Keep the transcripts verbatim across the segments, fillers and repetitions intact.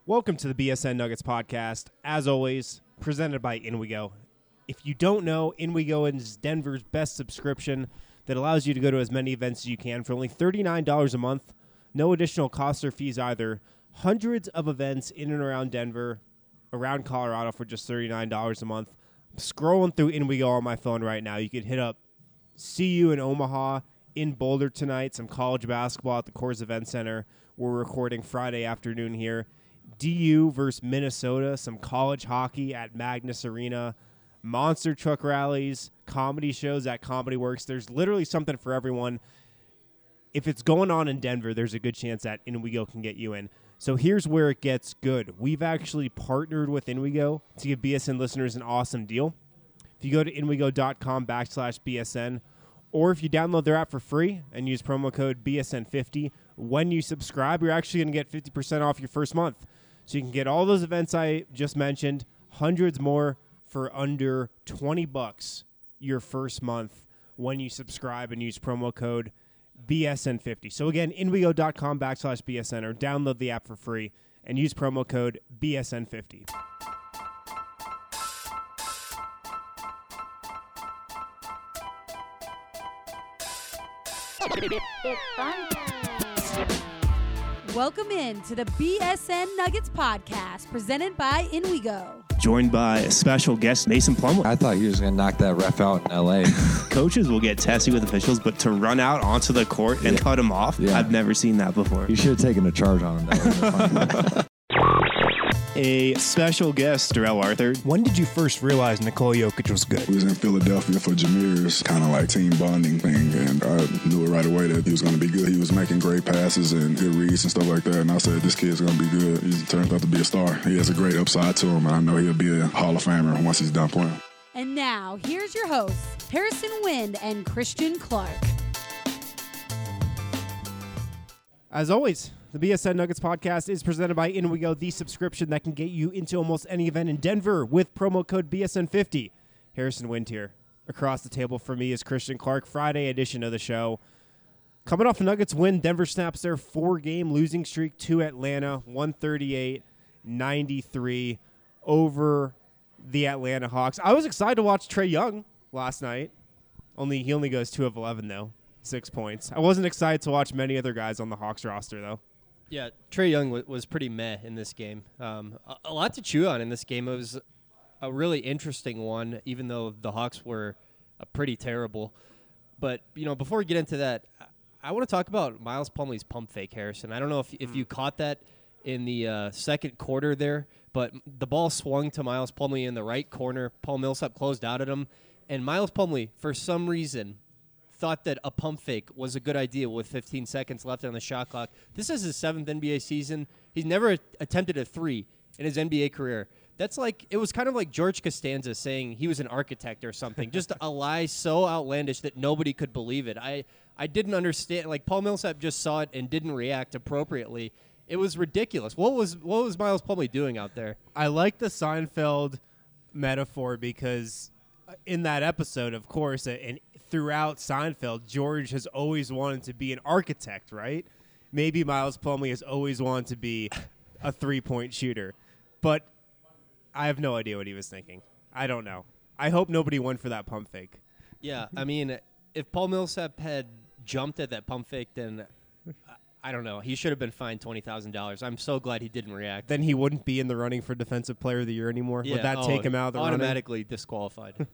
Welcome to the B S N Nuggets podcast. As always, presented by InWeGo. If you don't know, InWeGo is Denver's best subscription that allows you to go to as many events as you can for only thirty-nine dollars a month. No additional costs or fees either. Hundreds of events in and around Denver, around Colorado for just thirty-nine dollars a month. I'm scrolling through InWeGo on my phone right now. You could hit up C U in Omaha, in Boulder tonight, some college basketball at the Coors Event Center. We're recording Friday afternoon here. D U versus Minnesota, some college hockey at Magnus Arena, monster truck rallies, comedy shows at Comedy Works. There's literally something for everyone. If it's going on in Denver, there's a good chance that InWeGo can get you in. So here's where it gets good. We've actually partnered with InWeGo to give B S N listeners an awesome deal. If you go to InWeGo.com backslash BSN, or if you download their app for free and use promo code B S N fifty, when you subscribe, you're actually going to get fifty percent off your first month. So you can get all those events I just mentioned, hundreds more for under twenty bucks your first month when you subscribe and use promo code B S N fifty. So again, InWeGo.com backslash BSN or download the app for free and use promo code B S N fifty. It's fun. Welcome in to the B S N Nuggets podcast presented by InWeGo. Joined by a special guest, Mason Plumlee. I thought he was going to knock that ref out in L A Coaches will get testy with officials, but to run out onto the court and yeah. cut him off, yeah. I've never seen that before. You should have taken a charge on him. That A special guest, Darrell Arthur. When did you first realize Nikola Jokic was good? We was in Philadelphia for Jameer's kind of like team bonding thing, and I knew it right away that he was going to be good. He was making great passes and good reads and stuff like that, and I said, this kid's going to be good. He turns out to be a star. He has a great upside to him, and I know he'll be a Hall of Famer once he's done playing. And now, here's your hosts, Harrison Wind and Christian Clark. As always, the B S N Nuggets podcast is presented by InWeGo, the subscription that can get you into almost any event in Denver with promo code B S N fifty. Harrison Wind here. Across the table for me is Christian Clark. Friday edition of the show. Coming off a Nuggets win, Denver snaps their four-game losing streak to Atlanta, one thirty-eight ninety-three over the Atlanta Hawks. I was excited to watch Trae Young last night. Only He only goes two of eleven, though. Six points. I wasn't excited to watch many other guys on the Hawks roster, though. Yeah, Trae Young w- was pretty meh in this game. Um, a-, a lot to chew on in this game. It was a really interesting one, even though the Hawks were uh, pretty terrible. But, you know, before we get into that, I, I want to talk about Miles Plumlee's pump fake, Harrison. I don't know if, if you caught that in the uh, second quarter there, but the ball swung to Miles Plumlee in the right corner. Paul Millsap closed out at him, and Miles Plumlee, for some reason, thought that a pump fake was a good idea with fifteen seconds left on the shot clock. This is his seventh N B A season. He's never a- attempted a three in his N B A career. That's like, it was kind of like George Costanza saying he was an architect or something. Just a lie so outlandish that nobody could believe it. I, I didn't understand. Like, Paul Millsap just saw it and didn't react appropriately. It was ridiculous. What was what was Miles Plumlee doing out there? I like the Seinfeld metaphor because in that episode, of course, and throughout Seinfeld, George has always wanted to be an architect, right? Maybe Miles Plumlee has always wanted to be a three-point shooter. But I have no idea what he was thinking. I don't know. I hope nobody went for that pump fake. Yeah, I mean, if Paul Millsap had jumped at that pump fake, then I don't know. He should have been fined twenty thousand dollars. I'm so glad he didn't react. Then he wouldn't be in the running for Defensive Player of the Year anymore. Yeah, Would that oh, take him out of the running? automatically disqualified.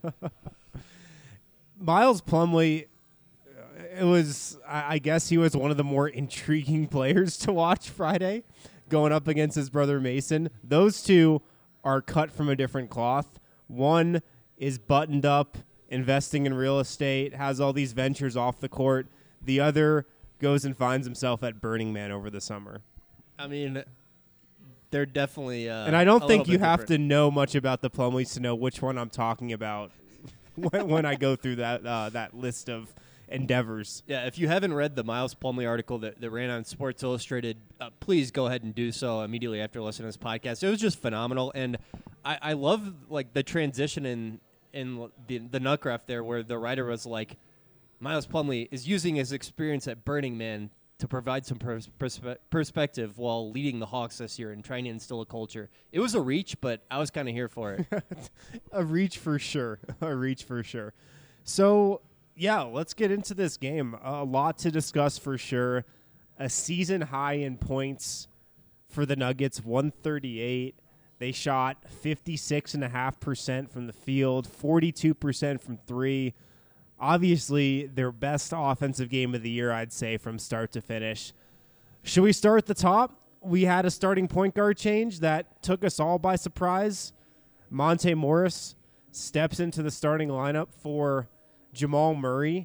Miles Plumlee, it was, I guess he was one of the more intriguing players to watch Friday, going up against his brother Mason. Those two are cut from a different cloth. One is buttoned up, investing in real estate, has all these ventures off the court. The other goes and finds himself at Burning Man over the summer. I mean, they're definitely uh, And I don't a think little you bit have different. to know much about the Plumlees to know which one I'm talking about when, when I go through that uh, that list of endeavors. Yeah, if you haven't read the Miles Plumlee article that, that ran on Sports Illustrated, uh, please go ahead and do so immediately after listening to this podcast. It was just phenomenal, and I, I love like the transition in in the the Nutcraft there, where the writer was like, Miles Plumlee is using his experience at Burning Man to provide some pers- perspe- perspective while leading the Hawks this year and trying to instill a culture. It was a reach, but I was kind of here for it. A reach for sure. A reach for sure. So, yeah, let's get into this game. A lot to discuss for sure. A season high in points for the Nuggets, one thirty-eight. They shot fifty-six point five percent from the field, forty-two percent from three. Obviously, their best offensive game of the year, I'd say, from start to finish. Should we start at the top? We had a starting point guard change that took us all by surprise. Monte Morris steps into the starting lineup for Jamal Murray.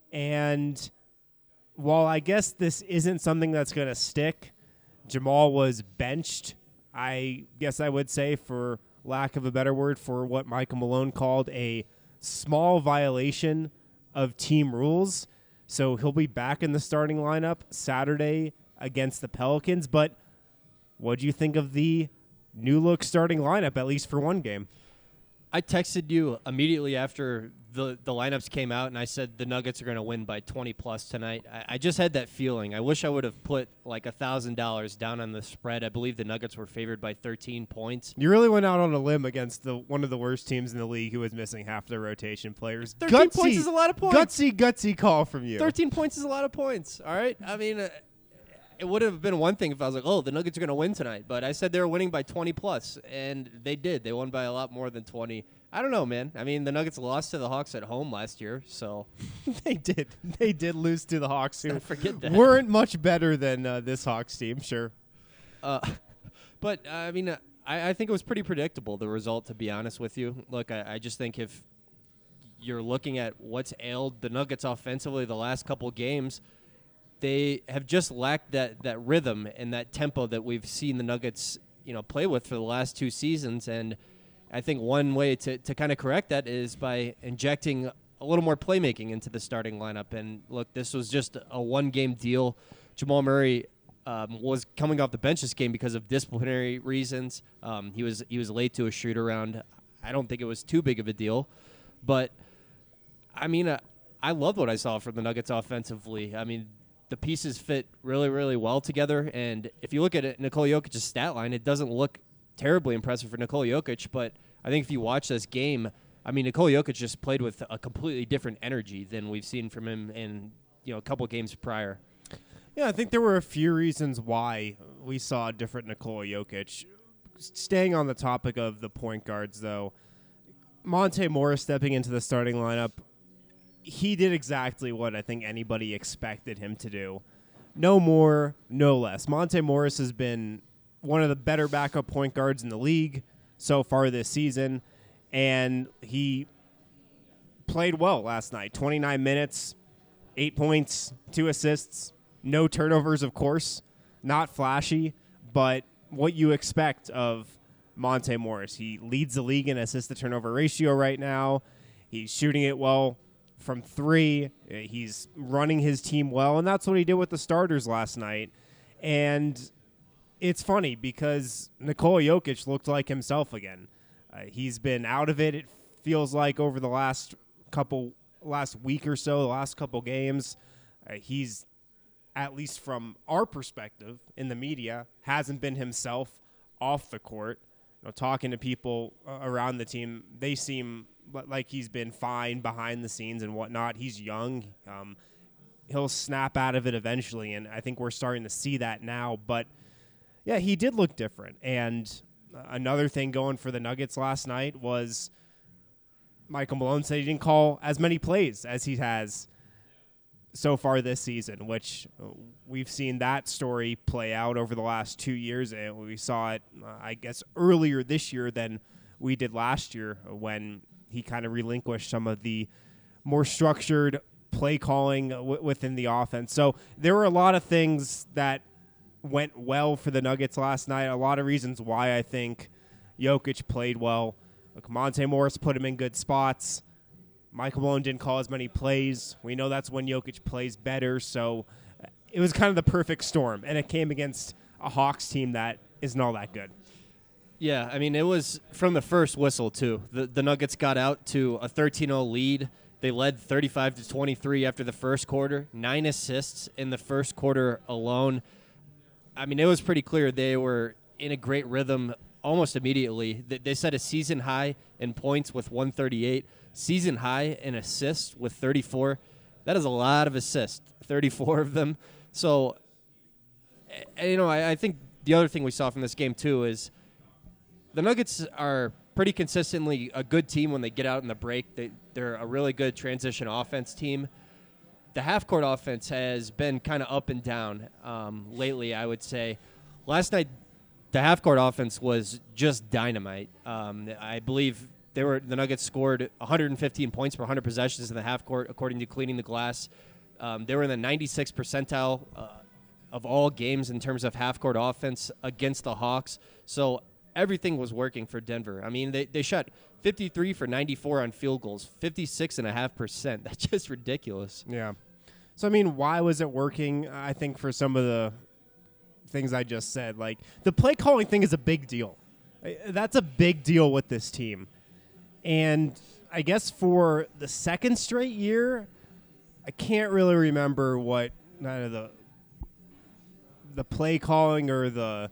And while I guess this isn't something that's going to stick, Jamal was benched, I guess I would say, for lack of a better word, for what Michael Malone called a small violation of team rules. So he'll be back in the starting lineup Saturday against the Pelicans. But what do you think of the new look starting lineup, at least for one game? I texted you immediately after the, the lineups came out, and I said the Nuggets are going to win by twenty plus tonight. I, I just had that feeling. I wish I would have put like one thousand dollars down on the spread. I believe the Nuggets were favored by thirteen points. You really went out on a limb against the one of the worst teams in the league who was missing half their rotation players. thirteen gutsy, points is a lot of points. Gutsy, gutsy call from you. thirteen points is a lot of points, all right? I mean, uh, it would have been one thing if I was like, oh, the Nuggets are going to win tonight. But I said they were winning by twenty plus, and they did. They won by a lot more than twenty. I don't know, man. I mean, the Nuggets lost to the Hawks at home last year, so. They did. They did lose to the Hawks, who forget that. weren't much better than uh, this Hawks team, sure. Uh, but, uh, I mean, uh, I, I think it was pretty predictable, the result, to be honest with you. Look, I, I just think if you're looking at what's ailed the Nuggets offensively the last couple games, they have just lacked that, that rhythm and that tempo that we've seen the Nuggets, you know, play with for the last two seasons. And I think one way to, to kind of correct that is by injecting a little more playmaking into the starting lineup. And look, this was just a one-game deal. Jamal Murray um, was coming off the bench this game because of disciplinary reasons. Um, he was he was late to a shoot around. I don't think it was too big of a deal, but I mean, uh, I loved what I saw from the Nuggets offensively. I mean, the pieces fit really, really well together. And if you look at it, Nikola Jokic's stat line, it doesn't look terribly impressive for Nikola Jokic, but I think if you watch this game, I mean, Nikola Jokic just played with a completely different energy than we've seen from him in, you know, a couple games prior. Yeah, I think there were a few reasons why we saw a different Nikola Jokic. Staying on the topic of the point guards, though, Monte Morris stepping into the starting lineup, he did exactly what I think anybody expected him to do. No more, no less. Monte Morris has been one of the better backup point guards in the league so far this season, and he played well last night. twenty-nine minutes, eight points, two assists, no turnovers, of course. Not flashy, but what you expect of Monte Morris. He leads the league in assist-to-turnover ratio right now. He's shooting it well from three. He's running his team well, and that's what he did with the starters last night. And it's funny because Nikola Jokic looked like himself again. Uh, he's been out of it, it feels like, over the last couple, last week or so, the last couple games. Uh, he's, at least from our perspective in the media, hasn't been himself off the court. You know, talking to people uh, around the team, they seem like he's been fine behind the scenes and whatnot. He's young. Um, he'll snap out of it eventually, and I think we're starting to see that now. But yeah, he did look different. And uh, another thing going for the Nuggets last night was Michael Malone said he didn't call as many plays as he has so far this season, which uh, we've seen that story play out over the last two years. And we saw it, uh, I guess, earlier this year than we did last year when he kind of relinquished some of the more structured play calling w- within the offense. So there were a lot of things that went well for the Nuggets last night. A lot of reasons why I think Jokic played well. Look, Monte Morris put him in good spots. Michael Malone didn't call as many plays. We know that's when Jokic plays better. So it was kind of the perfect storm, and it came against a Hawks team that isn't all that good. Yeah, I mean, it was from the first whistle, too. The, the Nuggets got out to a thirteen oh lead. They They led thirty-five to twenty-three after the first quarter, nine assists in the first quarter alone. I mean, it was pretty clear they were in a great rhythm almost immediately. They, they set a season high in points with one thirty-eight, season high in assists with thirty-four. That is a lot of assists, thirty-four of them. So, you know, I, I think the other thing we saw from this game, too, is the Nuggets are pretty consistently a good team when they get out in the break. They, they're a really good transition offense team. The half-court offense has been kind of up and down um, lately, I would say. Last night, the half-court offense was just dynamite. Um, I believe they were the Nuggets scored one hundred fifteen points per one hundred possessions in the half-court, according to Cleaning the Glass. Um, they were in the ninety-sixth percentile uh, of all games in terms of half-court offense against the Hawks. So everything was working for Denver. I mean, they, they shot fifty-three for ninety-four on field goals, fifty-six point five percent. That's just ridiculous. Yeah. So, I mean, why was it working? I think for some of the things I just said. Like, the play calling thing is a big deal. That's a big deal with this team. And I guess for the second straight year, I can't really remember what kind of the the play calling or the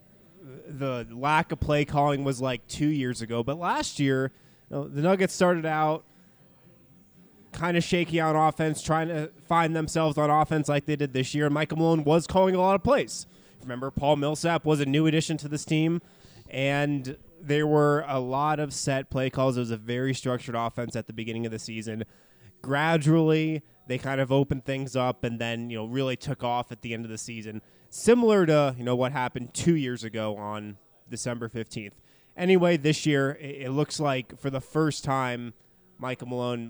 the lack of play calling was like two years ago. But last year, you know, the Nuggets started out kind of shaky on offense, trying to find themselves on offense like they did this year. Michael Malone was calling a lot of plays. Remember, Paul Millsap was a new addition to this team, and there were a lot of set play calls. It was a very structured offense at the beginning of the season. Gradually, they kind of opened things up and then, you know, really took off at the end of the season, similar to, you know, what happened two years ago on December fifteenth. Anyway, this year, it, it looks like for the first time, Michael Malone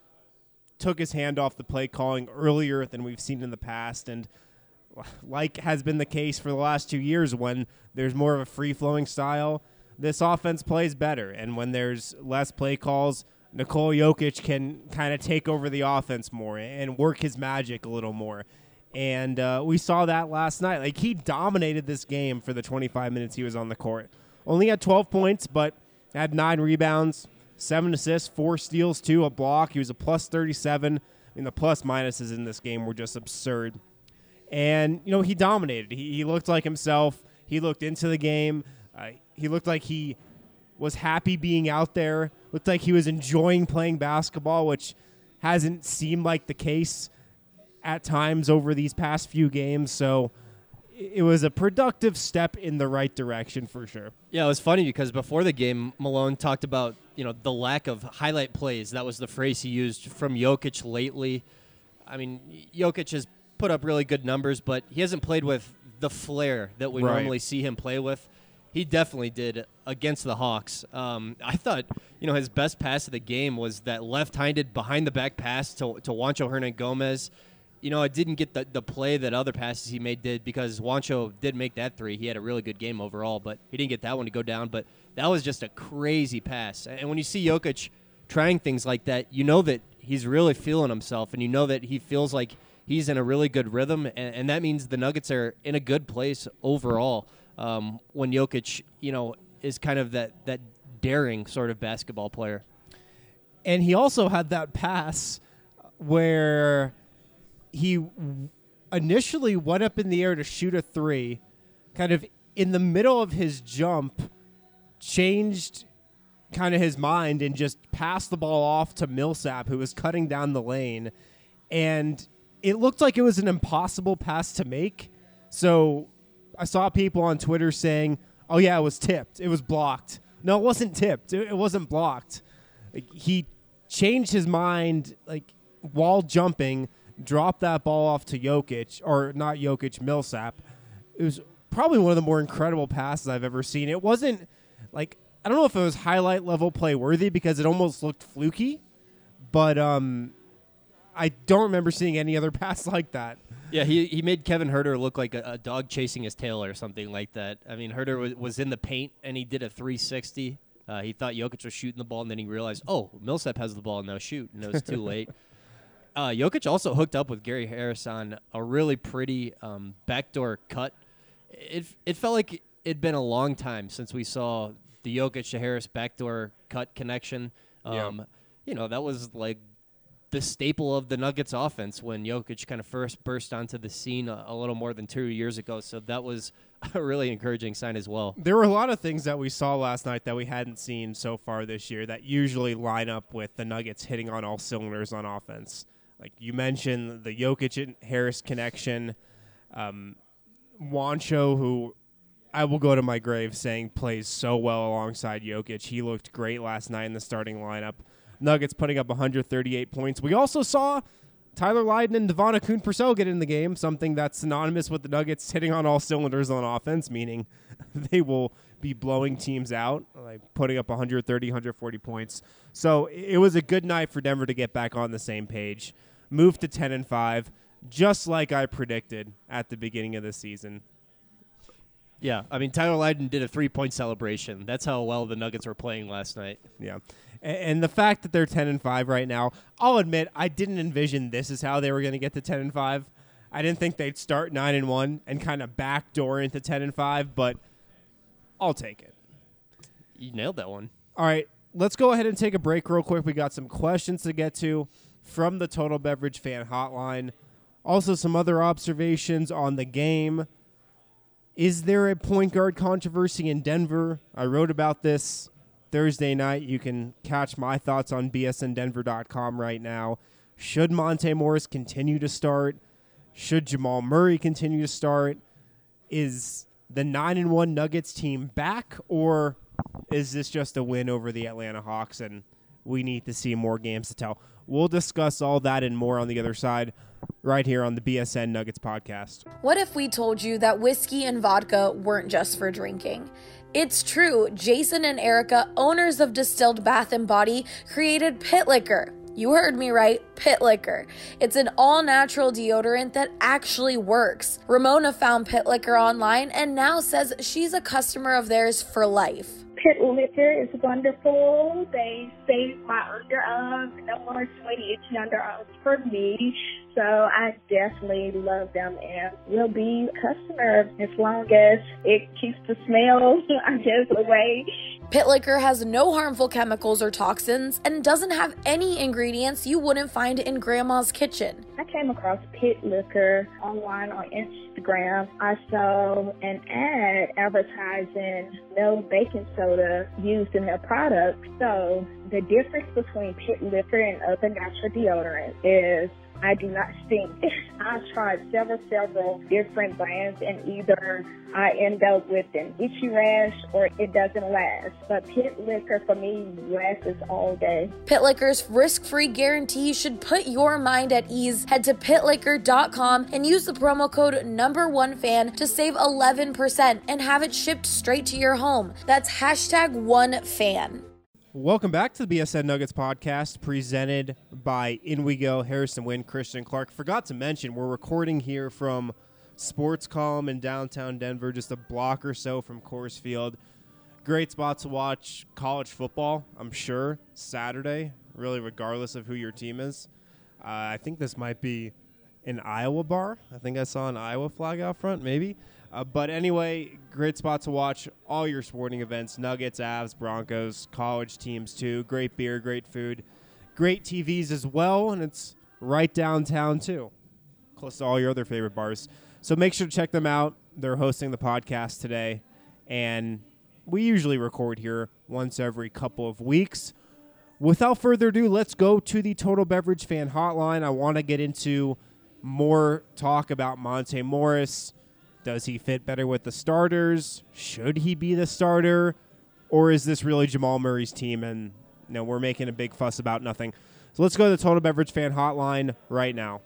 took his hand off the play calling earlier than we've seen in the past, and like has been the case for the last two years, when there's more of a free-flowing style, this offense plays better. And when there's less play calls, Nikola Jokic can kind of take over the offense more and work his magic a little more. And uh, we saw that last night. Like, he dominated this game for the twenty-five minutes he was on the court. Only had twelve points, but had nine rebounds, seven assists, four steals, two, a block. He was a plus thirty-seven. I mean, the plus minuses in this game were just absurd. And, you know, he dominated. He, he looked like himself. He looked into the game. Uh, he looked like he was happy being out there. Looked like he was enjoying playing basketball, which hasn't seemed like the case at times over these past few games. So it was a productive step in the right direction for sure. Yeah, it was funny because before the game, Malone talked about, you know, the lack of highlight plays. That was the phrase he used from Jokic lately. I mean, Jokic has put up really good numbers, but he hasn't played with the flair that we Right. normally see him play with. He definitely did against the Hawks. Um, I thought, you know, his best pass of the game was that left-handed behind-the-back pass to, to Juancho Hernangomez. You know, it didn't get the, the play that other passes he made did, because Juancho did make that three. He had a really good game overall, but he didn't get that one to go down. But that was just a crazy pass. And when you see Jokic trying things like that, you know that he's really feeling himself, and you know that he feels like he's in a really good rhythm, and, and that means the Nuggets are in a good place overall. Um, when Jokic, you know, is kind of that, that daring sort of basketball player. And he also had that pass where he initially went up in the air to shoot a three, kind of in the middle of his jump, changed kind of his mind and just passed the ball off to Millsap, who was cutting down the lane. And it looked like it was an impossible pass to make. So I saw people on Twitter saying, oh, yeah, it was tipped. It was blocked. No, it wasn't tipped. It, it wasn't blocked. Like, he changed his mind, like, while jumping, dropped that ball off to Jokic, or not Jokic, Millsap. It was probably one of the more incredible passes I've ever seen. It wasn't, like, I don't know if it was highlight level play worthy because it almost looked fluky, but um, I don't remember seeing any other pass like that. Yeah, he he made Kevin Huerter look like a, a dog chasing his tail or something like that. I mean, Huerter was, was in the paint, and he did a three sixty. Uh, he thought Jokic was shooting the ball, and then he realized, oh, Millsap has the ball, and now shoot, and it was too late. Uh, Jokic also hooked up with Gary Harris on a really pretty um, backdoor cut. It it felt like it'd been a long time since we saw the Jokic to Harris backdoor cut connection. Um, Yeah. You know, that was like the staple of the Nuggets offense when Jokic kind of first burst onto the scene a, a little more than two years ago. So that was a really encouraging sign as well. There were a lot of things that we saw last night that we hadn't seen so far this year that usually line up with the Nuggets hitting on all cylinders on offense. Like you mentioned, the Jokic and Harris connection. Um, Juancho, who I will go to my grave saying plays so well alongside Jokic. He looked great last night in the starting lineup. Nuggets putting up one hundred thirty-eight points. We also saw Tyler Lydon and Devon Akoon-Purcell get in the game, something that's synonymous with the Nuggets hitting on all cylinders on offense, meaning they will be blowing teams out, like putting up one hundred thirty, one hundred forty points. So it was a good night for Denver to get back on the same page, move to ten and five, just like I predicted at the beginning of the season. Yeah, I mean, Tyler Lydon did a three-point celebration. That's how well the Nuggets were playing last night. Yeah. And the fact that they're ten and five right now, I'll admit I didn't envision this is how they were going to get to ten and five. I didn't think they'd start nine and one and kind of backdoor into ten and five, but I'll take it. You nailed that one. All right, let's go ahead and take a break real quick. We got some questions to get to from the Total Beverage Fan Hotline. Also some other observations on the game. Is there a point guard controversy in Denver? I wrote about this Thursday night. You can catch my thoughts on B S N Denver dot com right now. Should Monte Morris continue to start? Should Jamal Murray continue to start? Is the nine and one Nuggets team back, or is this just a win over the Atlanta Hawks and we need to see more games to tell? We'll discuss all that and more on the other side right here on the B S N Nuggets podcast. What if we told you that whiskey and vodka weren't just for drinking? It's true. Jason and Erica, owners of Distilled Bath and Body, created Pit Liquor. You heard me right, Pit Liquor. It's an all-natural deodorant that actually works. Ramona found Pit Liquor online and now says she's a customer of theirs for life. Pit Liquor is wonderful. They save my underarms. No more sweaty, itchy underarms for me. So I definitely love them and will be a customer as long as it keeps the smell, I guess, away. Pit Liquor has no harmful chemicals or toxins and doesn't have any ingredients you wouldn't find in Grandma's kitchen. I came across Pit Liquor online on Instagram. I saw an ad advertising no baking soda used in their product. So the difference between Pit Liquor and other natural deodorants is I do not stink. I've tried several, several different brands, and either I end up with an itchy rash or it doesn't last. But Pit Liquor, for me, lasts all day. Pit Liquor's risk-free guarantee should put your mind at ease. Head to pit liquor dot com and use the promo code number one fan to save eleven percent and have it shipped straight to your home. That's hashtag one fan. Welcome back to the B S N Nuggets podcast presented by In We Go, Harrison Wind, Christian Clark. Forgot to mention, we're recording here from Sports Column in downtown Denver, just a block or so from Coors Field. Great spot to watch college football, I'm sure, Saturday, really regardless of who your team is. Uh, I think this might be an Iowa bar. I think I saw an Iowa flag out front, maybe. Uh, but anyway, great spot to watch all your sporting events, Nuggets, Avs, Broncos, college teams too. Great beer, great food, great T Vs as well, and it's right downtown too, close to all your other favorite bars. So make sure to check them out. They're hosting the podcast today, and we usually record here once every couple of weeks. Without further ado, let's go to the Total Beverage Fan Hotline. I want to get into more talk about Monte Morris. Does he fit better with the starters? Should he be the starter? Or is this really Jamal Murray's team and you know, we're making a big fuss about nothing? So let's go to the Total Beverage Fan Hotline right now.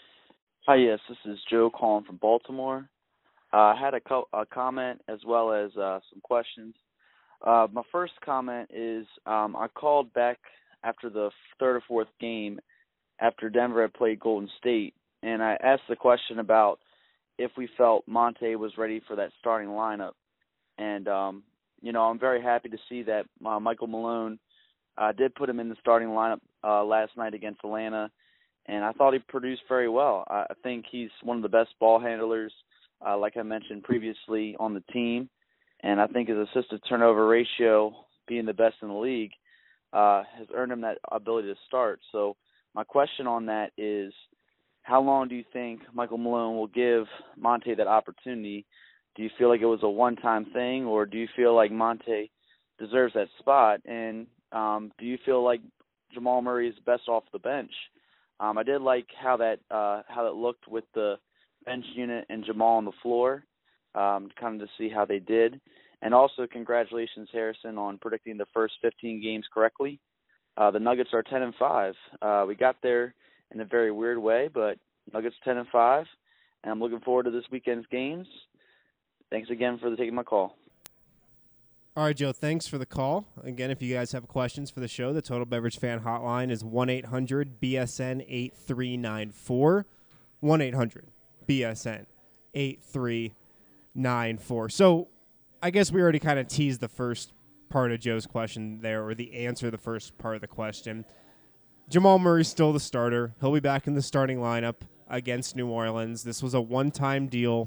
Hi, yes, this is Joe calling from Baltimore. Uh, I had a, co- a comment as well as uh, some questions. Uh, my first comment is um, I called back after the third or fourth game after Denver had played Golden State, and I asked the question about if we felt Monte was ready for that starting lineup. And, um, you know, I'm very happy to see that uh, Michael Malone uh, did put him in the starting lineup uh, last night against Atlanta, and I thought he produced very well. I think he's one of the best ball handlers, uh, like I mentioned previously, on the team, and I think his assist-to-turnover ratio, being the best in the league, uh, has earned him that ability to start. So my question on that is, how long do you think Michael Malone will give Monte that opportunity? Do you feel like it was a one-time thing, or do you feel like Monte deserves that spot? And um, do you feel like Jamal Murray is best off the bench? Um, I did like how that uh, how that looked with the bench unit and Jamal on the floor, um, kind of to see how they did. And also, congratulations, Harrison, on predicting the first fifteen games correctly. Uh, the Nuggets are ten and five. Uh, we got there in a very weird way, but Nuggets ten and five, and I'm looking forward to this weekend's games. Thanks again for taking my call. All right, Joe, thanks for the call. Again, if you guys have questions for the show, the Total Beverage Fan Hotline is one eight hundred B S N eight three nine four, one eight hundred B S N eight three nine four. So I guess we already kind of teased the first part of Joe's question there, or the answer to the first part of the question. Jamal Murray's still the starter. He'll be back in the starting lineup against New Orleans. This was a one-time deal.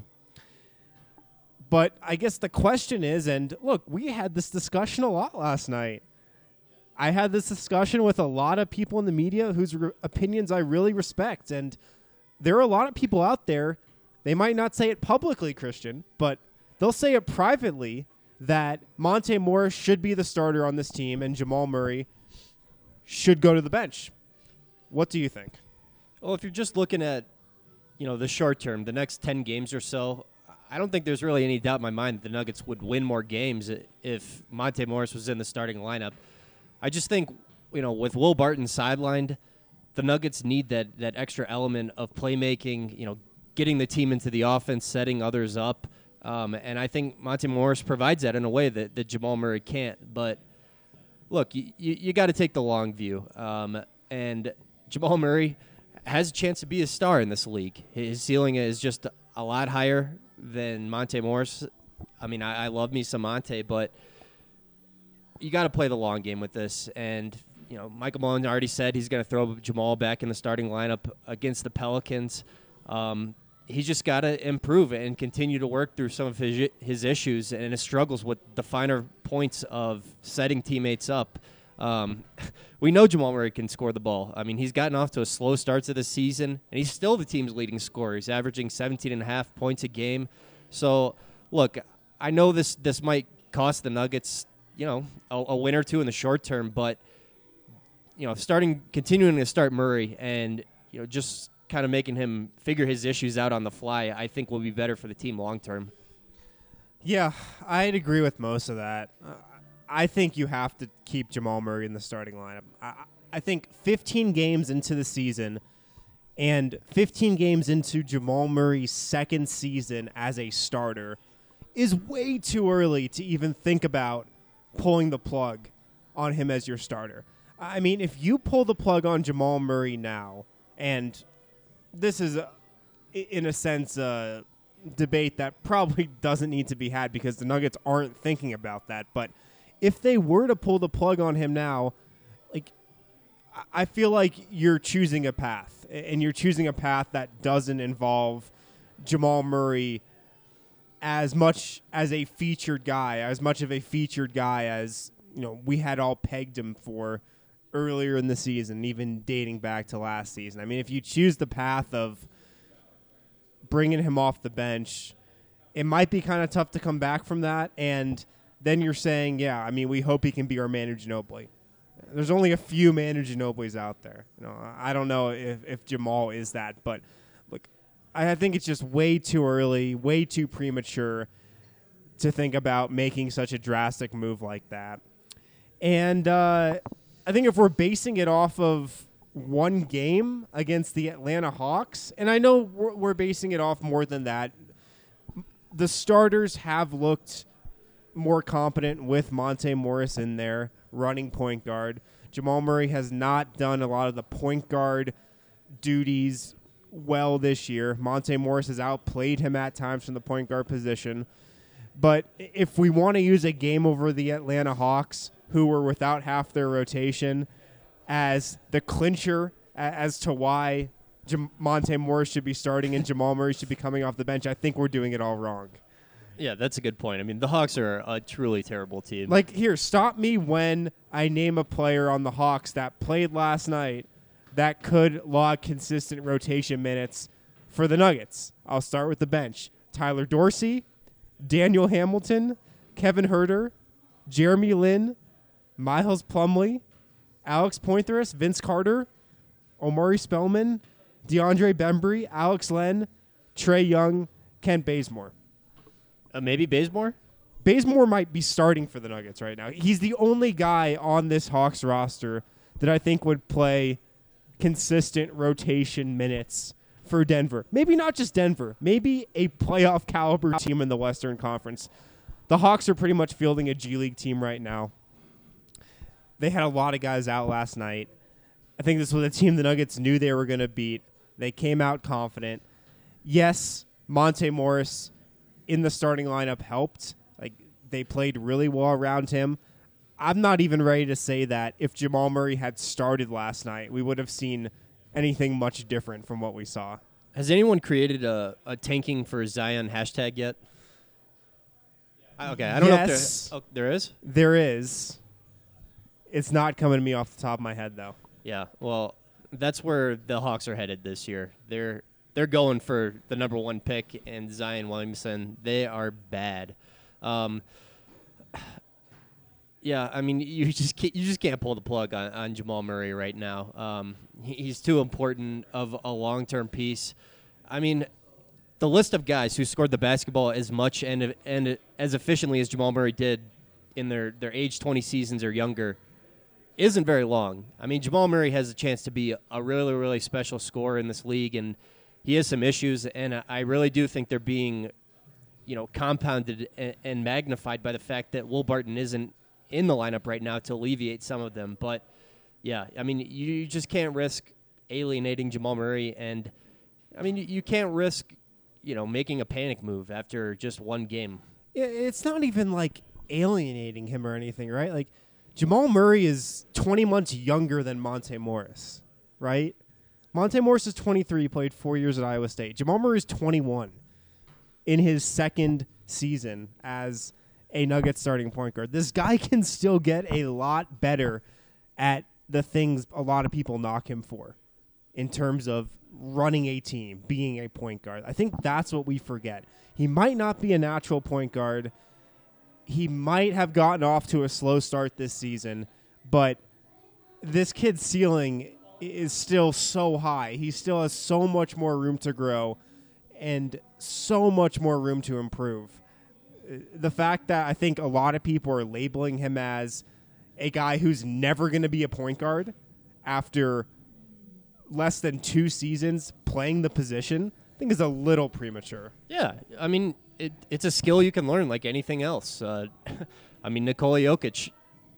But I guess the question is, and look, we had this discussion a lot last night. I had this discussion with a lot of people in the media whose re- opinions I really respect. And there are a lot of people out there, they might not say it publicly, Christian, but they'll say it privately, that Monte Morris should be the starter on this team and Jamal Murray should go to the bench. What do you think? Well, if you're just looking at, you know, the short term, the next ten games or so, I don't think there's really any doubt in my mind that the Nuggets would win more games if Monte Morris was in the starting lineup. I just think, you know, with Will Barton sidelined, the Nuggets need that that extra element of playmaking, you know, getting the team into the offense, setting others up. Um, and I think Monte Morris provides that in a way that, that Jamal Murray can't. But, look, you, you, you got to take the long view. Um, and Jamal Murray has a chance to be a star in this league. His ceiling is just a lot higher than Monte Morris. I mean, I, I love me some Monte, but you got to play the long game with this. And, you know, Michael Malone already said he's going to throw Jamal back in the starting lineup against the Pelicans. Um, he's just got to improve and continue to work through some of his his issues and his struggles with the finer points of setting teammates up. Um, we know Jamal Murray can score the ball. I mean, he's gotten off to a slow start to the season, and he's still the team's leading scorer. He's averaging seventeen and a half points a game. So, look, I know this this might cost the Nuggets, you know, a, a win or two in the short term, but, you know, starting, continuing to start Murray and, you know, just kind of making him figure his issues out on the fly, I think will be better for the team long term. Yeah, I'd agree with most of that. Uh, I think you have to keep Jamal Murray in the starting lineup. I, I think fifteen games into the season and fifteen games into Jamal Murray's second season as a starter is way too early to even think about pulling the plug on him as your starter. I mean, if you pull the plug on Jamal Murray now, and this is, a, in a sense, a debate that probably doesn't need to be had because the Nuggets aren't thinking about that, but if they were to pull the plug on him now, like, I feel like you're choosing a path, and you're choosing a path that doesn't involve Jamal Murray as much as a featured guy, as much of a featured guy as, you know, we had all pegged him for earlier in the season, even dating back to last season. I mean, if you choose the path of bringing him off the bench, it might be kind of tough to come back from that, and then you're saying, yeah, I mean, we hope he can be our Manu Ginobili. There's only a few Manu Ginobilis out there. You know, I don't know if, if Jamal is that, but look, I think it's just way too early, way too premature to think about making such a drastic move like that. And uh, I think if we're basing it off of one game against the Atlanta Hawks, and I know we're, we're basing it off more than that, the starters have looked more competent with Monte Morris in there, running point guard. Jamal Murray has not done a lot of the point guard duties well this year. Monte Morris has outplayed him at times from the point guard position. But if we want to use a game over the Atlanta Hawks, who were without half their rotation, as the clincher as to why Jam- Monte Morris should be starting and Jamal Murray should be coming off the bench, I think we're doing it all wrong. Yeah, that's a good point. I mean, the Hawks are a truly terrible team. Like, here, stop me when I name a player on the Hawks that played last night that could log consistent rotation minutes for the Nuggets. I'll start with the bench. Tyler Dorsey, Daniel Hamilton, Kevin Huerter, Jeremy Lin, Miles Plumlee, Alex Pointerus, Vince Carter, Omari Spellman, DeAndre Bembry, Alex Len, Trae Young, Kent Bazemore. Uh, maybe Bazemore? Bazemore might be starting for the Nuggets right now. He's the only guy on this Hawks roster that I think would play consistent rotation minutes for Denver. Maybe not just Denver. Maybe a playoff caliber team in the Western Conference. The Hawks are pretty much fielding a G League team right now. They had a lot of guys out last night. I think this was a team the Nuggets knew they were going to beat. They came out confident. Yes, Monte Morris in the starting lineup helped. Like, they played really well around him. I'm not even ready to say that if Jamal Murray had started last night, we would have seen anything much different from what we saw. Has anyone created a, a tanking for Zion hashtag yet? Okay, I don't yes, know if there, oh, there is? There is. It's not coming to me off the top of my head, though. Yeah, well, that's where the Hawks are headed this year. They're they're going for the number one pick and Zion Williamson. They are bad. Um, yeah, I mean, you just can't, you just can't pull the plug on, on Jamal Murray right now. Um, he, he's too important of a long-term piece. I mean, the list of guys who scored the basketball as much and and as efficiently as Jamal Murray did in their, their age twenty seasons or younger isn't very long. I mean, Jamal Murray has a chance to be a really, really special scorer in this league, and he has some issues, and I really do think they're being, you know, compounded and, and magnified by the fact that Will Barton isn't in the lineup right now to alleviate some of them. But, yeah, I mean, you, you just can't risk alienating Jamal Murray, and, I mean, you, you can't risk, you know, making a panic move after just one game. It's not even, like, alienating him or anything, right? Like, Jamal Murray is twenty months younger than Monte Morris, right? Monte Morris is twenty-three, he played four years at Iowa State. Jamal Murray is twenty-one in his second season as a Nuggets starting point guard. This guy can still get a lot better at the things a lot of people knock him for in terms of running a team, being a point guard. I think that's what we forget. He might not be a natural point guard. He might have gotten off to a slow start this season, but this kid's ceiling is still so high. He still has so much more room to grow and so much more room to improve. The fact that I think a lot of people are labeling him as a guy who's never going to be a point guard after less than two seasons playing the position, I think is a little premature. Yeah, I mean, it, it's a skill you can learn like anything else. Uh, I mean, Nikola Jokic,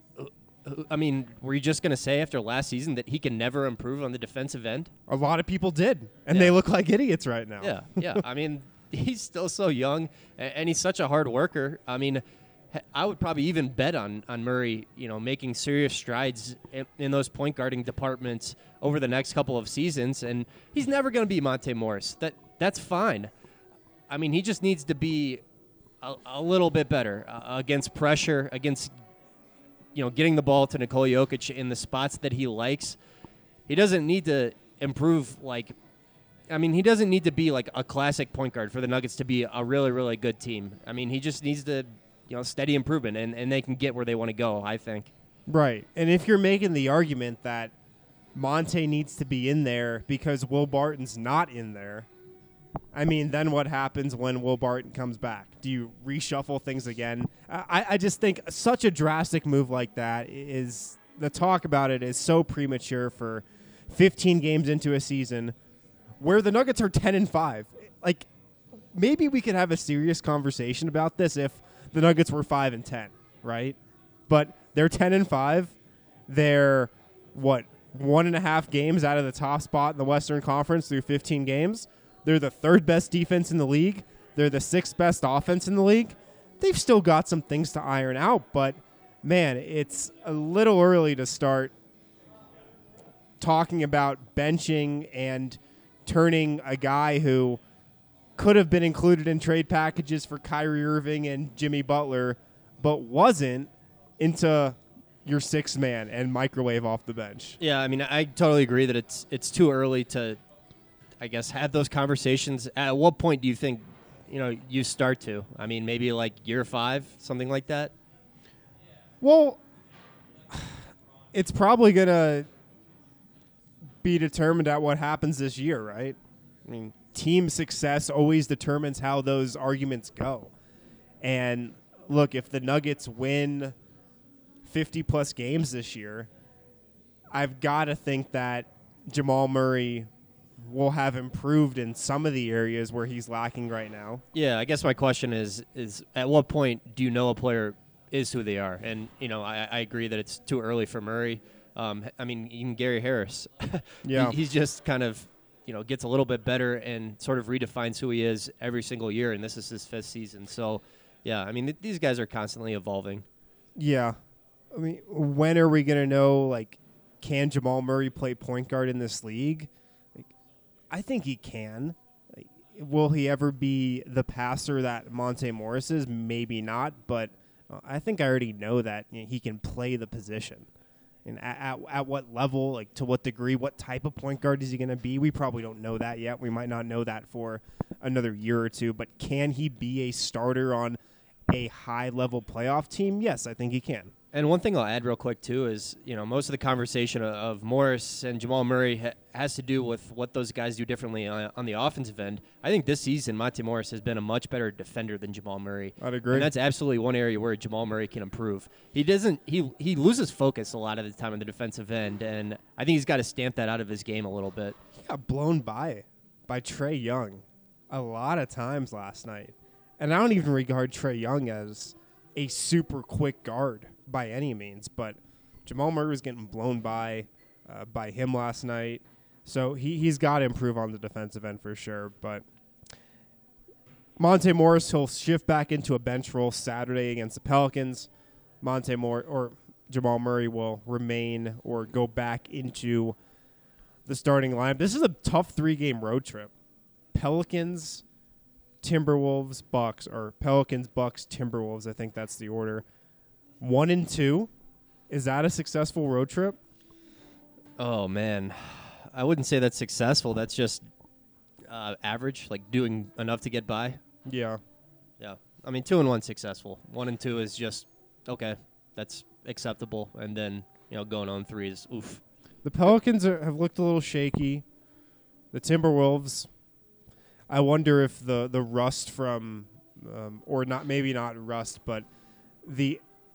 I mean, were you just going to say after last season that he can never improve on the defensive end? A lot of people did, and yeah. they look like idiots right now. Yeah, yeah. I mean, he's still so young, and he's such a hard worker. I mean, I would probably even bet on, on Murray, you know, making serious strides in, in those point guarding departments over the next couple of seasons, and he's never going to be Monte Morris. That That's fine. I mean, he just needs to be a, a little bit better uh, against pressure, against, you know, getting the ball to Nikola Jokic in the spots that he likes. He doesn't need to improve, like, I mean, he doesn't need to be like a classic point guard for the Nuggets to be a really, really good team. I mean, he just needs to, you know, steady improvement, and, and they can get where they want to go, I think. Right. And if you're making the argument that Monte needs to be in there because Will Barton's not in there, I mean, then what happens when Will Barton comes back? Do you reshuffle things again? I, I just think such a drastic move like that is, the talk about it is so premature for fifteen games into a season where the Nuggets are ten and five. Like, maybe we could have a serious conversation about this if the Nuggets were five and ten, right? But they're ten and five. They're, what, one and a half games out of the top spot in the Western Conference through fifteen games. They're the third best defense in the league. They're the sixth best offense in the league. They've still got some things to iron out, but, man, it's a little early to start talking about benching and turning a guy who could have been included in trade packages for Kyrie Irving and Jimmy Butler, but wasn't, into your sixth man and microwave off the bench. Yeah, I mean, I totally agree that it's it's too early to, I guess, have those conversations. At what point do you think, you know, you start to? I mean, maybe like year five, something like that? Well, it's probably going to be determined at what happens this year, right? I mean, team success always determines how those arguments go. And look, if the Nuggets win fifty-plus games this year, I've got to think that Jamal Murray will have improved in some of the areas where he's lacking right now. Yeah, I guess my question is, is at what point do you know a player is who they are? And, you know, I, I agree that it's too early for Murray. Um, I mean, even Gary Harris. Yeah. he, he's just kind of, you know, gets a little bit better and sort of redefines who he is every single year, and this is his fifth season. So, yeah, I mean, th- these guys are constantly evolving. Yeah. I mean, when are we going to know, like, can Jamal Murray play point guard in this league? Like, I think he can. Like, will he ever be the passer that Monte Morris is? Maybe not, but uh, I think I already know that you know, he can play the position. And at, at, at what level, like to what degree, what type of point guard is he going to be? We probably don't know that yet. We might not know that for another year or two. But can he be a starter on a high-level playoff team? Yes, I think he can. And one thing I'll add real quick, too, is, you know, most of the conversation of, of Morris and Jamal Murray ha- has to do with what those guys do differently on, on the offensive end. I think this season, Monte Morris has been a much better defender than Jamal Murray. I'd agree. And that's absolutely one area where Jamal Murray can improve. He doesn't, he, he loses focus a lot of the time on the defensive end, and I think he's got to stamp that out of his game a little bit. He got blown by by Trae Young a lot of times last night. And I don't even regard Trae Young as a super quick guard by any means, but Jamal Murray was getting blown by uh, by him last night. So he, he's got to improve on the defensive end for sure. But Monte Morris, he'll shift back into a bench role Saturday against the Pelicans. Monte Morris or Jamal Murray will remain or go back into the starting lineup. This is a tough three-game road trip. Pelicans, Timberwolves, Bucks, or Pelicans, Bucks, Timberwolves. I think that's the order. One and two. Is that a successful road trip? Oh, man. I wouldn't say that's successful. That's just uh, average, like doing enough to get by. Yeah. Yeah. I mean, two and one successful. One and two is just, okay, that's acceptable. And then, you know, going on three is oof. The Pelicans are, have looked a little shaky. The Timberwolves, I wonder if the, the rust from, um, or not, maybe not rust, but the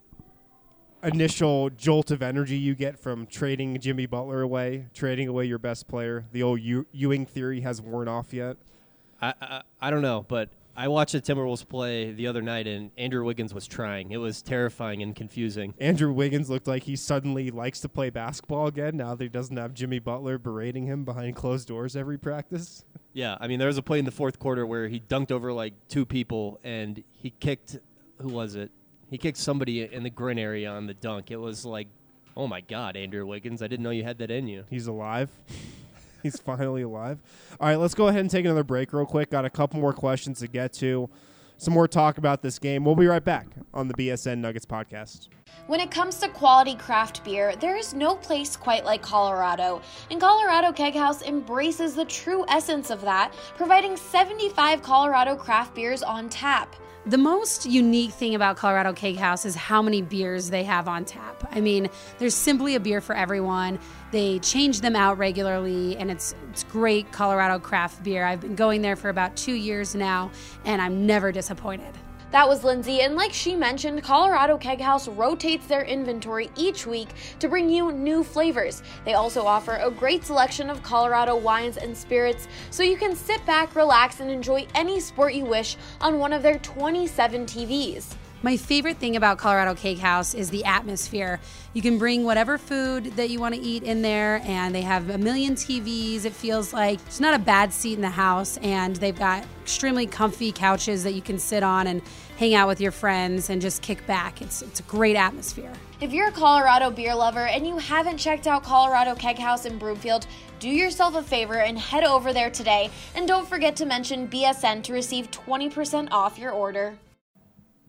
initial jolt of energy you get from trading Jimmy Butler away, trading away your best player, the old Ew- Ewing theory has worn off yet? I, I I don't know, but I watched the Timberwolves play the other night, and Andrew Wiggins was trying. It was terrifying and confusing. Andrew Wiggins looked like he suddenly likes to play basketball again now that he doesn't have Jimmy Butler berating him behind closed doors every practice. Yeah, I mean, there was a play in the fourth quarter where he dunked over like two people, and he kicked, who was it? He kicked somebody in the grin area on the dunk. It was like, oh, my God, Andrew Wiggins. I didn't know you had that in you. He's alive. He's finally alive. All right, let's go ahead and take another break real quick. Got a couple more questions to get to. Some more talk about this game. We'll be right back on the B S N Nuggets podcast. When it comes to quality craft beer, there is no place quite like Colorado. And Colorado Keg House embraces the true essence of that, providing seventy-five Colorado craft beers on tap. The most unique thing about Colorado Keg House is how many beers they have on tap. I mean, there's simply a beer for everyone. They change them out regularly, and it's it's great Colorado craft beer. I've been going there for about two years now, and I'm never disappointed. That was Lindsay, and like she mentioned, Colorado Keg House rotates their inventory each week to bring you new flavors. They also offer a great selection of Colorado wines and spirits, so you can sit back, relax, and enjoy any sport you wish on one of their twenty-seven T Vs. My favorite thing about Colorado Cake House is the atmosphere. You can bring whatever food that you want to eat in there, and they have a million T Vs. It feels like it's not a bad seat in the house, and they've got extremely comfy couches that you can sit on and hang out with your friends and just kick back. It's it's a great atmosphere. If you're a Colorado beer lover and you haven't checked out Colorado Keg House in Broomfield, do yourself a favor and head over there today. And don't forget to mention B S N to receive twenty percent off your order.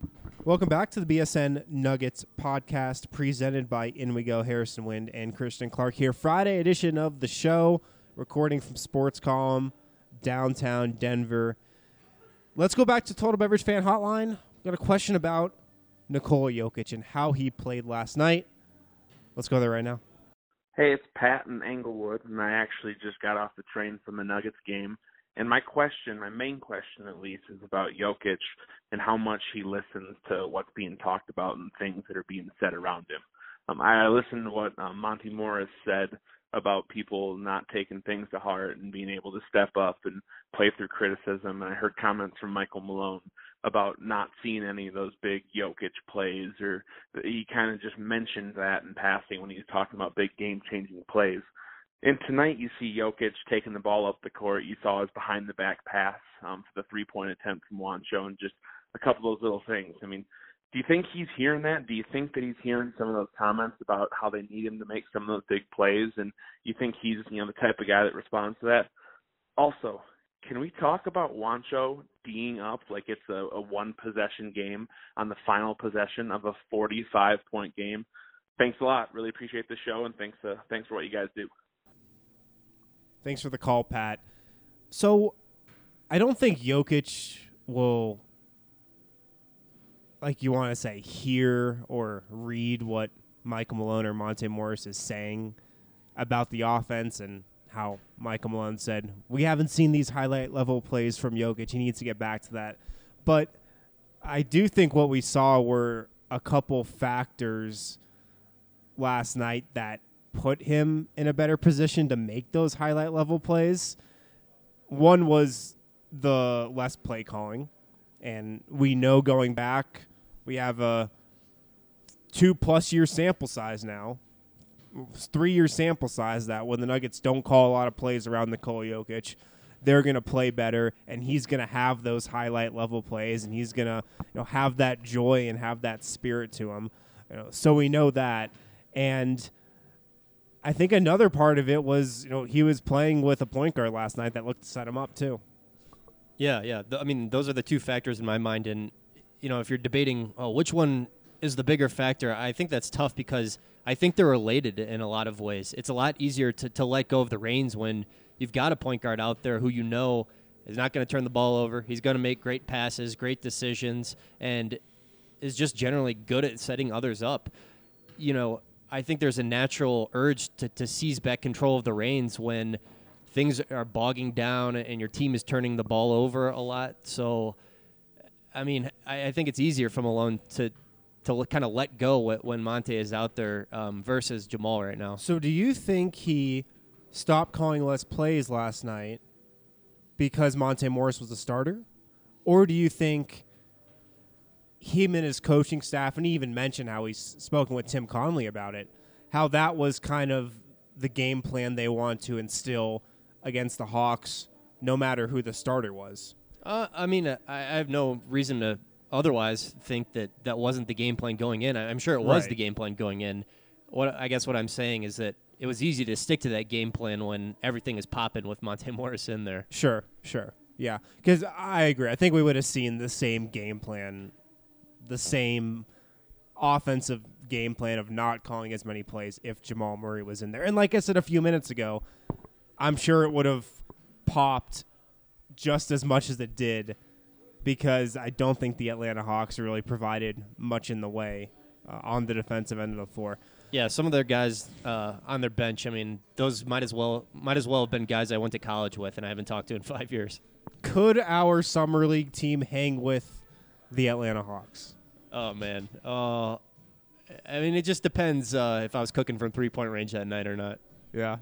Welcome back to the B S N Nuggets podcast presented by In We Go. Harrison Wind and Christian Clark here. Friday edition of the show, recording from Sports Column, downtown Denver. Let's go back to Total Beverage Fan Hotline. Got a question about Nikola Jokic and how he played last night. Let's go there right now. Hey, it's Pat in Englewood, and I actually just got off the train from the Nuggets game. And my question, my main question at least, is about Jokic and how much he listens to what's being talked about and things that are being said around him. Um, I listened to what um, Monty Morris said about people not taking things to heart and being able to step up and play through criticism. And I heard comments from Michael Malone about not seeing any of those big Jokic plays, or he kind of just mentioned that in passing when he was talking about big game-changing plays. And tonight you see Jokic taking the ball up the court. You saw his behind-the-back pass um, for the three-point attempt from Juancho and just a couple of those little things. I mean, do you think he's hearing that? Do you think that he's hearing some of those comments about how they need him to make some of those big plays? And you think he's, you know, the type of guy that responds to that? Also, can we talk about Juancho D'ing up like it's a, a one-possession game on the final possession of a forty-five point game? Thanks a lot. Really appreciate the show, and thanks uh, thanks for what you guys do. Thanks for the call, Pat. So I don't think Jokic will, like you want to say, hear or read what Michael Malone or Monte Morris is saying about the offense and how Michael Malone said, we haven't seen these highlight level plays from Jokic. He needs to get back to that. But I do think what we saw were a couple factors last night that put him in a better position to make those highlight level plays. One was the less play calling. And we know going back, we have a two plus year sample size now. Three year sample size that when the Nuggets don't call a lot of plays around Nikola Jokic, they're going to play better, and he's going to have those highlight level plays, and he's going to, you know, have that joy and have that spirit to him. You know, so we know that. And I think another part of it was, you know, he was playing with a point guard last night that looked to set him up too. Yeah, yeah. Th- I mean, those are the two factors in my mind. And, you know, if you're debating, oh, which one is the bigger factor, I think that's tough because I think they're related in a lot of ways. It's a lot easier to, to let go of the reins when you've got a point guard out there who you know is not going to turn the ball over. He's going to make great passes, great decisions, and is just generally good at setting others up. You know, I think there's a natural urge to, to seize back control of the reins when things are bogging down and your team is turning the ball over a lot. So, I mean, I, I think it's easier for Malone to to kind of let go when Monte is out there um, versus Jamal right now. So do you think he stopped calling less plays last night because Monte Morris was the starter? Or do you think him and his coaching staff, and he even mentioned how he's spoken with Tim Conley about it, how that was kind of the game plan they want to instill against the Hawks, no matter who the starter was? Uh, I mean, I, I have no reason to otherwise think that that wasn't the game plan going in. I'm sure it was Right. the game plan going in. What I guess what I'm saying is that it was easy to stick to that game plan when everything is popping with Monte Morris in there. Sure, sure. Yeah, because I agree. I think we would have seen the same game plan, the same offensive game plan of not calling as many plays if Jamal Murray was in there. And like I said a few minutes ago, I'm sure it would have popped just as much as it did because I don't think the Atlanta Hawks really provided much in the way uh, on the defensive end of the floor. Yeah, some of their guys uh, on their bench, I mean, those might as well might as well have been guys I went to college with and I haven't talked to in five years. Could our summer league team hang with the Atlanta Hawks? Oh, man. Uh, I mean, it just depends uh, if I was cooking from three-point range that night or not. Yeah.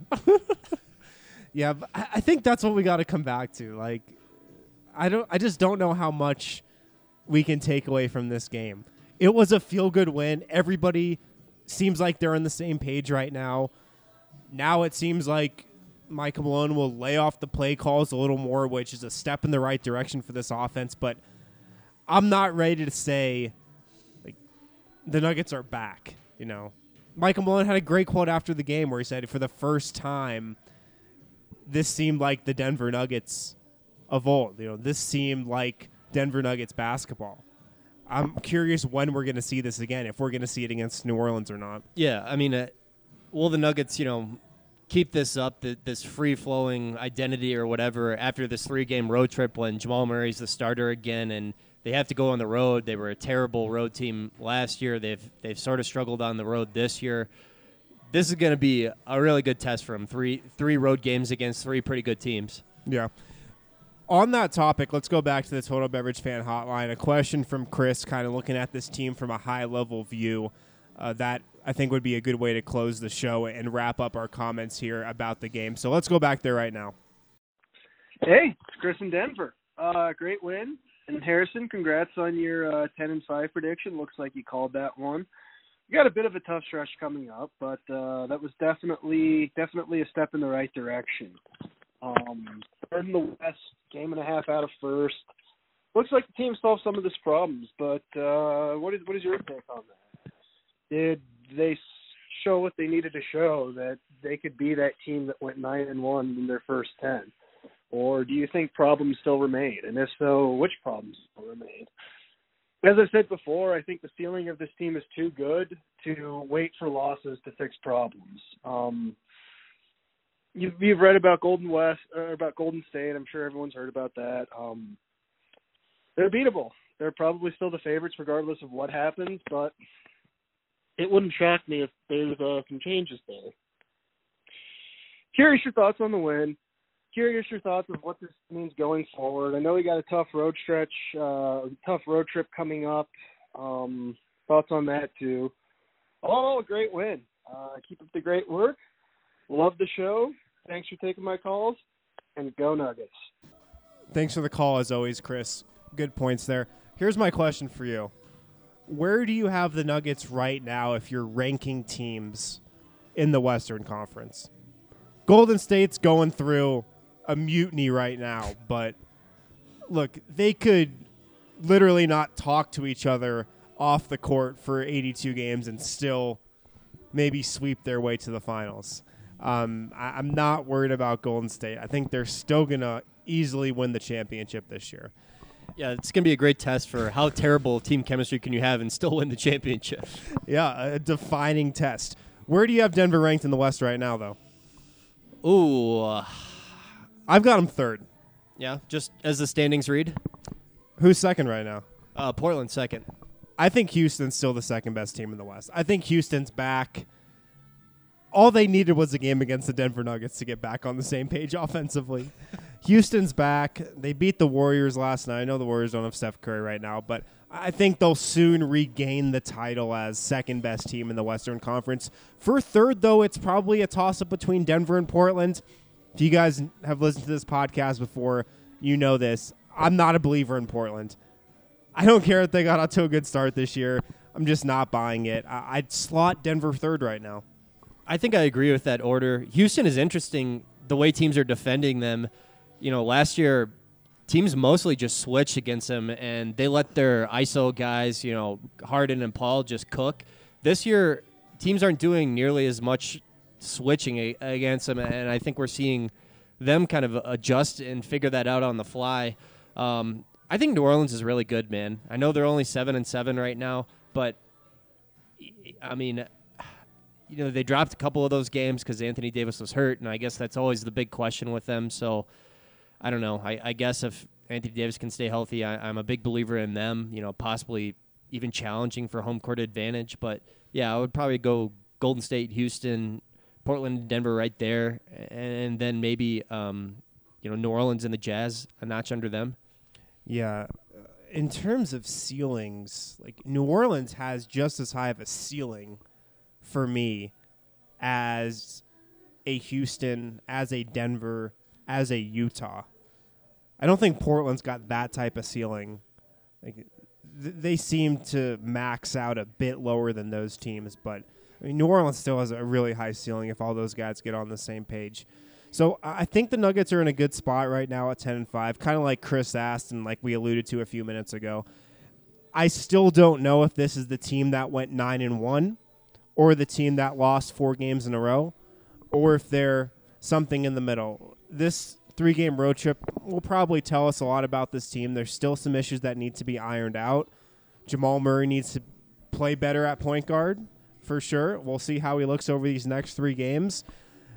yeah, but I I think that's what we got to come back to. Like, I don't. I just don't know how much we can take away from this game. It was a feel-good win. Everybody seems like they're on the same page right now. Now it seems like Michael Malone will lay off the play calls a little more, which is a step in the right direction for this offense. But I'm not ready to say like the Nuggets are back. You know, Michael Malone had a great quote after the game where he said, "For the first time, this seemed like the Denver Nuggets of old. You know, this seemed like Denver Nuggets basketball." I'm curious when we're going to see this again, if we're going to see it against New Orleans or not. Yeah, I mean, uh, will the Nuggets, you know, keep this up, th- this free-flowing identity or whatever, after this three-game road trip when Jamal Murray's the starter again and they have to go on the road? They were a terrible road team last year. They've they've sort of struggled on the road this year. This is going to be a really good test for them. Three three road games against three pretty good teams. Yeah. On that topic, let's go back to the Total Beverage Fan Hotline. A question from Chris, kind of looking at this team from a high-level view. Uh, that, I think, would be a good way to close the show and wrap up our comments here about the game. So let's go back there right now. Hey, it's Chris in Denver. Uh, great win. And Harrison, congrats on your uh, ten and five prediction. Looks like you called that one. You got a bit of a tough stretch coming up, but uh, that was definitely definitely a step in the right direction. Um, third in the West, game and a half out of first. Looks like the team solved some of these problems, but uh, what is what is your take on that? Did they show what they needed to show, that they could be that team that went nine and one in their first ten, or do you think problems still remain? And if so, which problems still remain? As I said before, I think the ceiling of this team is too good to wait for losses to fix problems. Um, You've, you've read about Golden West, or about Golden State. I'm sure everyone's heard about that. Um, they're beatable. They're probably still the favorites regardless of what happens, but it wouldn't shock me if there's uh, some changes there. Curious your thoughts on the win. Curious your thoughts of what this means going forward. I know we got a tough road stretch, uh, tough road trip coming up. Um, thoughts on that too. Oh, a great win. Uh, keep up the great work. Love the show. Thanks for taking my calls, and go Nuggets. Thanks for the call, as always, Chris. Good points there. Here's my question for you. Where do you have the Nuggets right now if you're ranking teams in the Western Conference? Golden State's going through a mutiny right now, but look, they could literally not talk to each other off the court for eighty-two games and still maybe sweep their way to the finals. Um, I, I'm not worried about Golden State. I think they're still going to easily win the championship this year. Yeah, it's going to be a great test for how terrible team chemistry can you have and still win the championship. Yeah, a defining test. Where do you have Denver ranked in the West right now, though? Ooh. Uh, I've got them third. Yeah, just as the standings read. Who's second right now? Uh, Portland second. I think Houston's still the second best team in the West. I think Houston's back. All they needed was a game against the Denver Nuggets to get back on the same page offensively. Houston's back. They beat the Warriors last night. I know the Warriors don't have Steph Curry right now, but I think they'll soon regain the title as second best team in the Western Conference. For third, though, it's probably a toss-up between Denver and Portland. If you guys have listened to this podcast before, you know this. I'm not a believer in Portland. I don't care if they got out to a good start this year. I'm just not buying it. I- I'd slot Denver third right now. I think I agree with that order. Houston is interesting, the way teams are defending them. You know, last year, teams mostly just switched against them, and they let their I S O guys, you know, Harden and Paul, just cook. This year, teams aren't doing nearly as much switching a- against them, and I think we're seeing them kind of adjust and figure that out on the fly. Um, I think New Orleans is really good, man. I know they're only seven and seven right now, but I mean, you know, they dropped a couple of those games because Anthony Davis was hurt, and I guess that's always the big question with them. So I don't know. I, I guess if Anthony Davis can stay healthy, I, I'm a big believer in them. You know, possibly even challenging for home court advantage. But yeah, I would probably go Golden State, Houston, Portland, Denver, right there, and then maybe um, you know, New Orleans and the Jazz a notch under them. Yeah. In terms of ceilings, like New Orleans has just as high of a ceiling for me as a Houston, as a Denver, as a Utah. I don't think Portland's got that type of ceiling. Like th- they seem to max out a bit lower than those teams, but I mean, New Orleans still has a really high ceiling if all those guys get on the same page. So I think the Nuggets are in a good spot right now at ten and five, kind of like Chris asked and like we alluded to a few minutes ago. I still don't know if this is the team that went nine and one or the team that lost four games in a row, or if they're something in the middle. This three-game road trip will probably tell us a lot about this team. There's still some issues that need to be ironed out, Jamal Murray needs to play better at point guard for sure. We'll see how he looks over these next three games.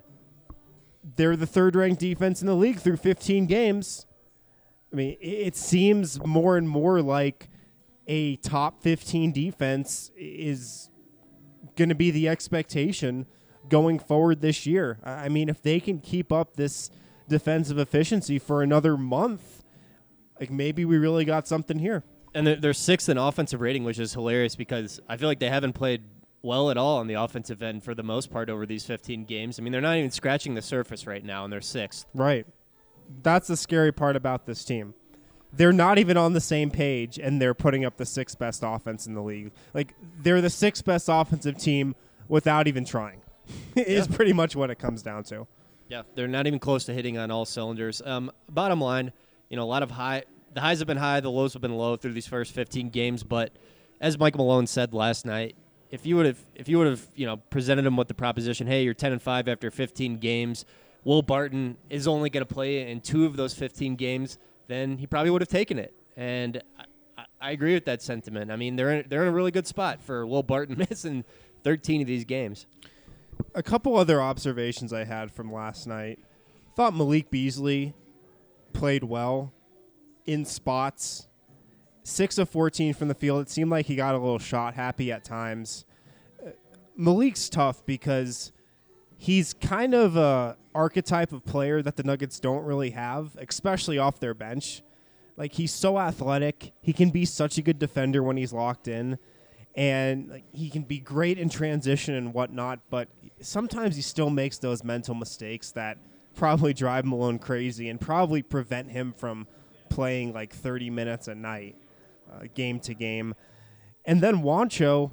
They're the third-ranked defense in the league through fifteen games. I mean, it seems more and more like a top fifteen defense is going to be the expectation going forward this year. I mean, if they can keep up this defensive efficiency for another month, like maybe we really got something here. And they're, they're sixth in offensive rating, which is hilarious because I feel like they haven't played well at all on the offensive end for the most part over these fifteen games. I mean, they're not even scratching the surface right now, and they're sixth. Right. That's the scary part about this team. They're not even on the same page, and they're putting up the sixth best offense in the league. Like, they're the sixth best offensive team without even trying. Is yeah. pretty much what it comes down to. Yeah, they're not even close to hitting on all cylinders. Um, bottom line, you know, a lot of high – the highs have been high, the lows have been low through these first fifteen games. But as Michael Malone said last night, if you would have, if you would have, you know, presented him with the proposition, hey, you're ten and five after fifteen games, Will Barton is only going to play in two of those fifteen games, then he probably would have taken it. And I, I agree with that sentiment. I mean, they're in, they're in a really good spot for Will Barton missing thirteen of these games. A couple other observations I had from last night. Thought Malik Beasley played well in spots. six of fourteen from the field. It seemed like he got a little shot happy at times. Uh, Malik's tough because he's kind of a archetype of player that the Nuggets don't really have, especially off their bench. Like, he's so athletic. He can be such a good defender when he's locked in. And like, he can be great in transition and whatnot, but sometimes he still makes those mental mistakes that probably drive Malone crazy and probably prevent him from playing like thirty minutes a night, uh, game to game. And then Juancho,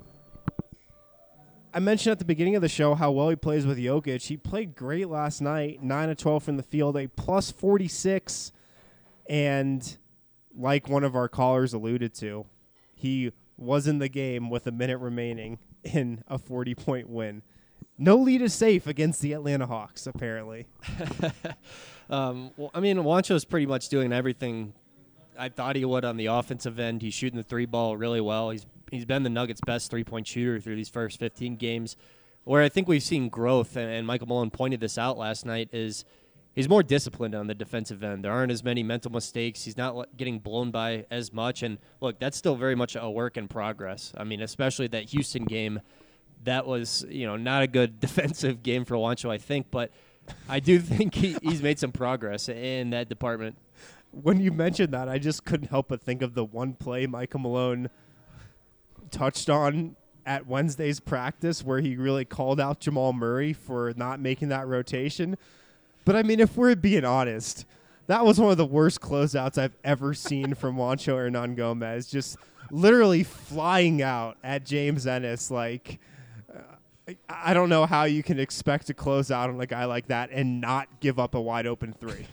I mentioned at the beginning of the show how well he plays with Jokic. He played great last night, nine of twelve from the field, a plus forty-six. And like one of our callers alluded to, he was in the game with a minute remaining in a forty-point win. No lead is safe against the Atlanta Hawks, apparently. um, well, I mean, Juancho's pretty much doing everything I thought he would on the offensive end. He's shooting the three ball really well. He's he's been the Nuggets' best three-point shooter through these first fifteen games. Where I think we've seen growth, and, and Michael Malone pointed this out last night, is he's more disciplined on the defensive end. There aren't as many mental mistakes. He's not getting blown by as much. And, look, that's still very much a work in progress. I mean, especially that Houston game, that was, you know, not a good defensive game for Juancho, I think. But I do think he, he's made some progress in that department. When you mentioned that, I just couldn't help but think of the one play Michael Malone touched on at Wednesday's practice where he really called out Jamal Murray for not making that rotation. But, I mean, if we're being honest, that was one of the worst closeouts I've ever seen from Juancho Hernangomez, just literally flying out at James Ennis. Like, uh, I don't know how you can expect to close out on a guy like that and not give up a wide-open three.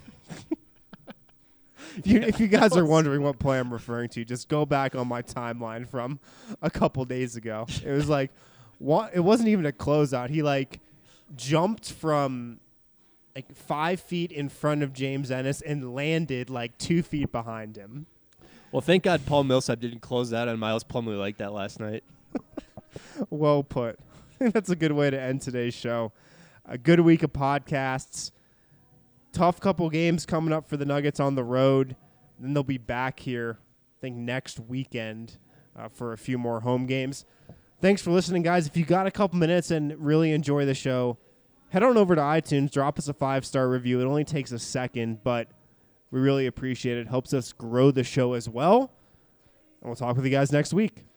if, you, if you guys are wondering what play I'm referring to, just go back on my timeline from a couple days ago. It was like, what, it wasn't even a closeout. He, like, jumped from like five feet in front of James Ennis and landed like two feet behind him. Well, thank God Paul Millsap didn't close that on Miles Plumlee like that last night. Well put. I think that's a good way to end today's show. A good week of podcasts. Tough couple games coming up for the Nuggets on the road. Then they'll be back here, I think, next weekend uh, for a few more home games. Thanks for listening, guys. If you got a couple minutes and really enjoy the show, head on over to iTunes, drop us a five-star review. It only takes a second, but we really appreciate it. Helps us grow the show as well. And we'll talk with you guys next week.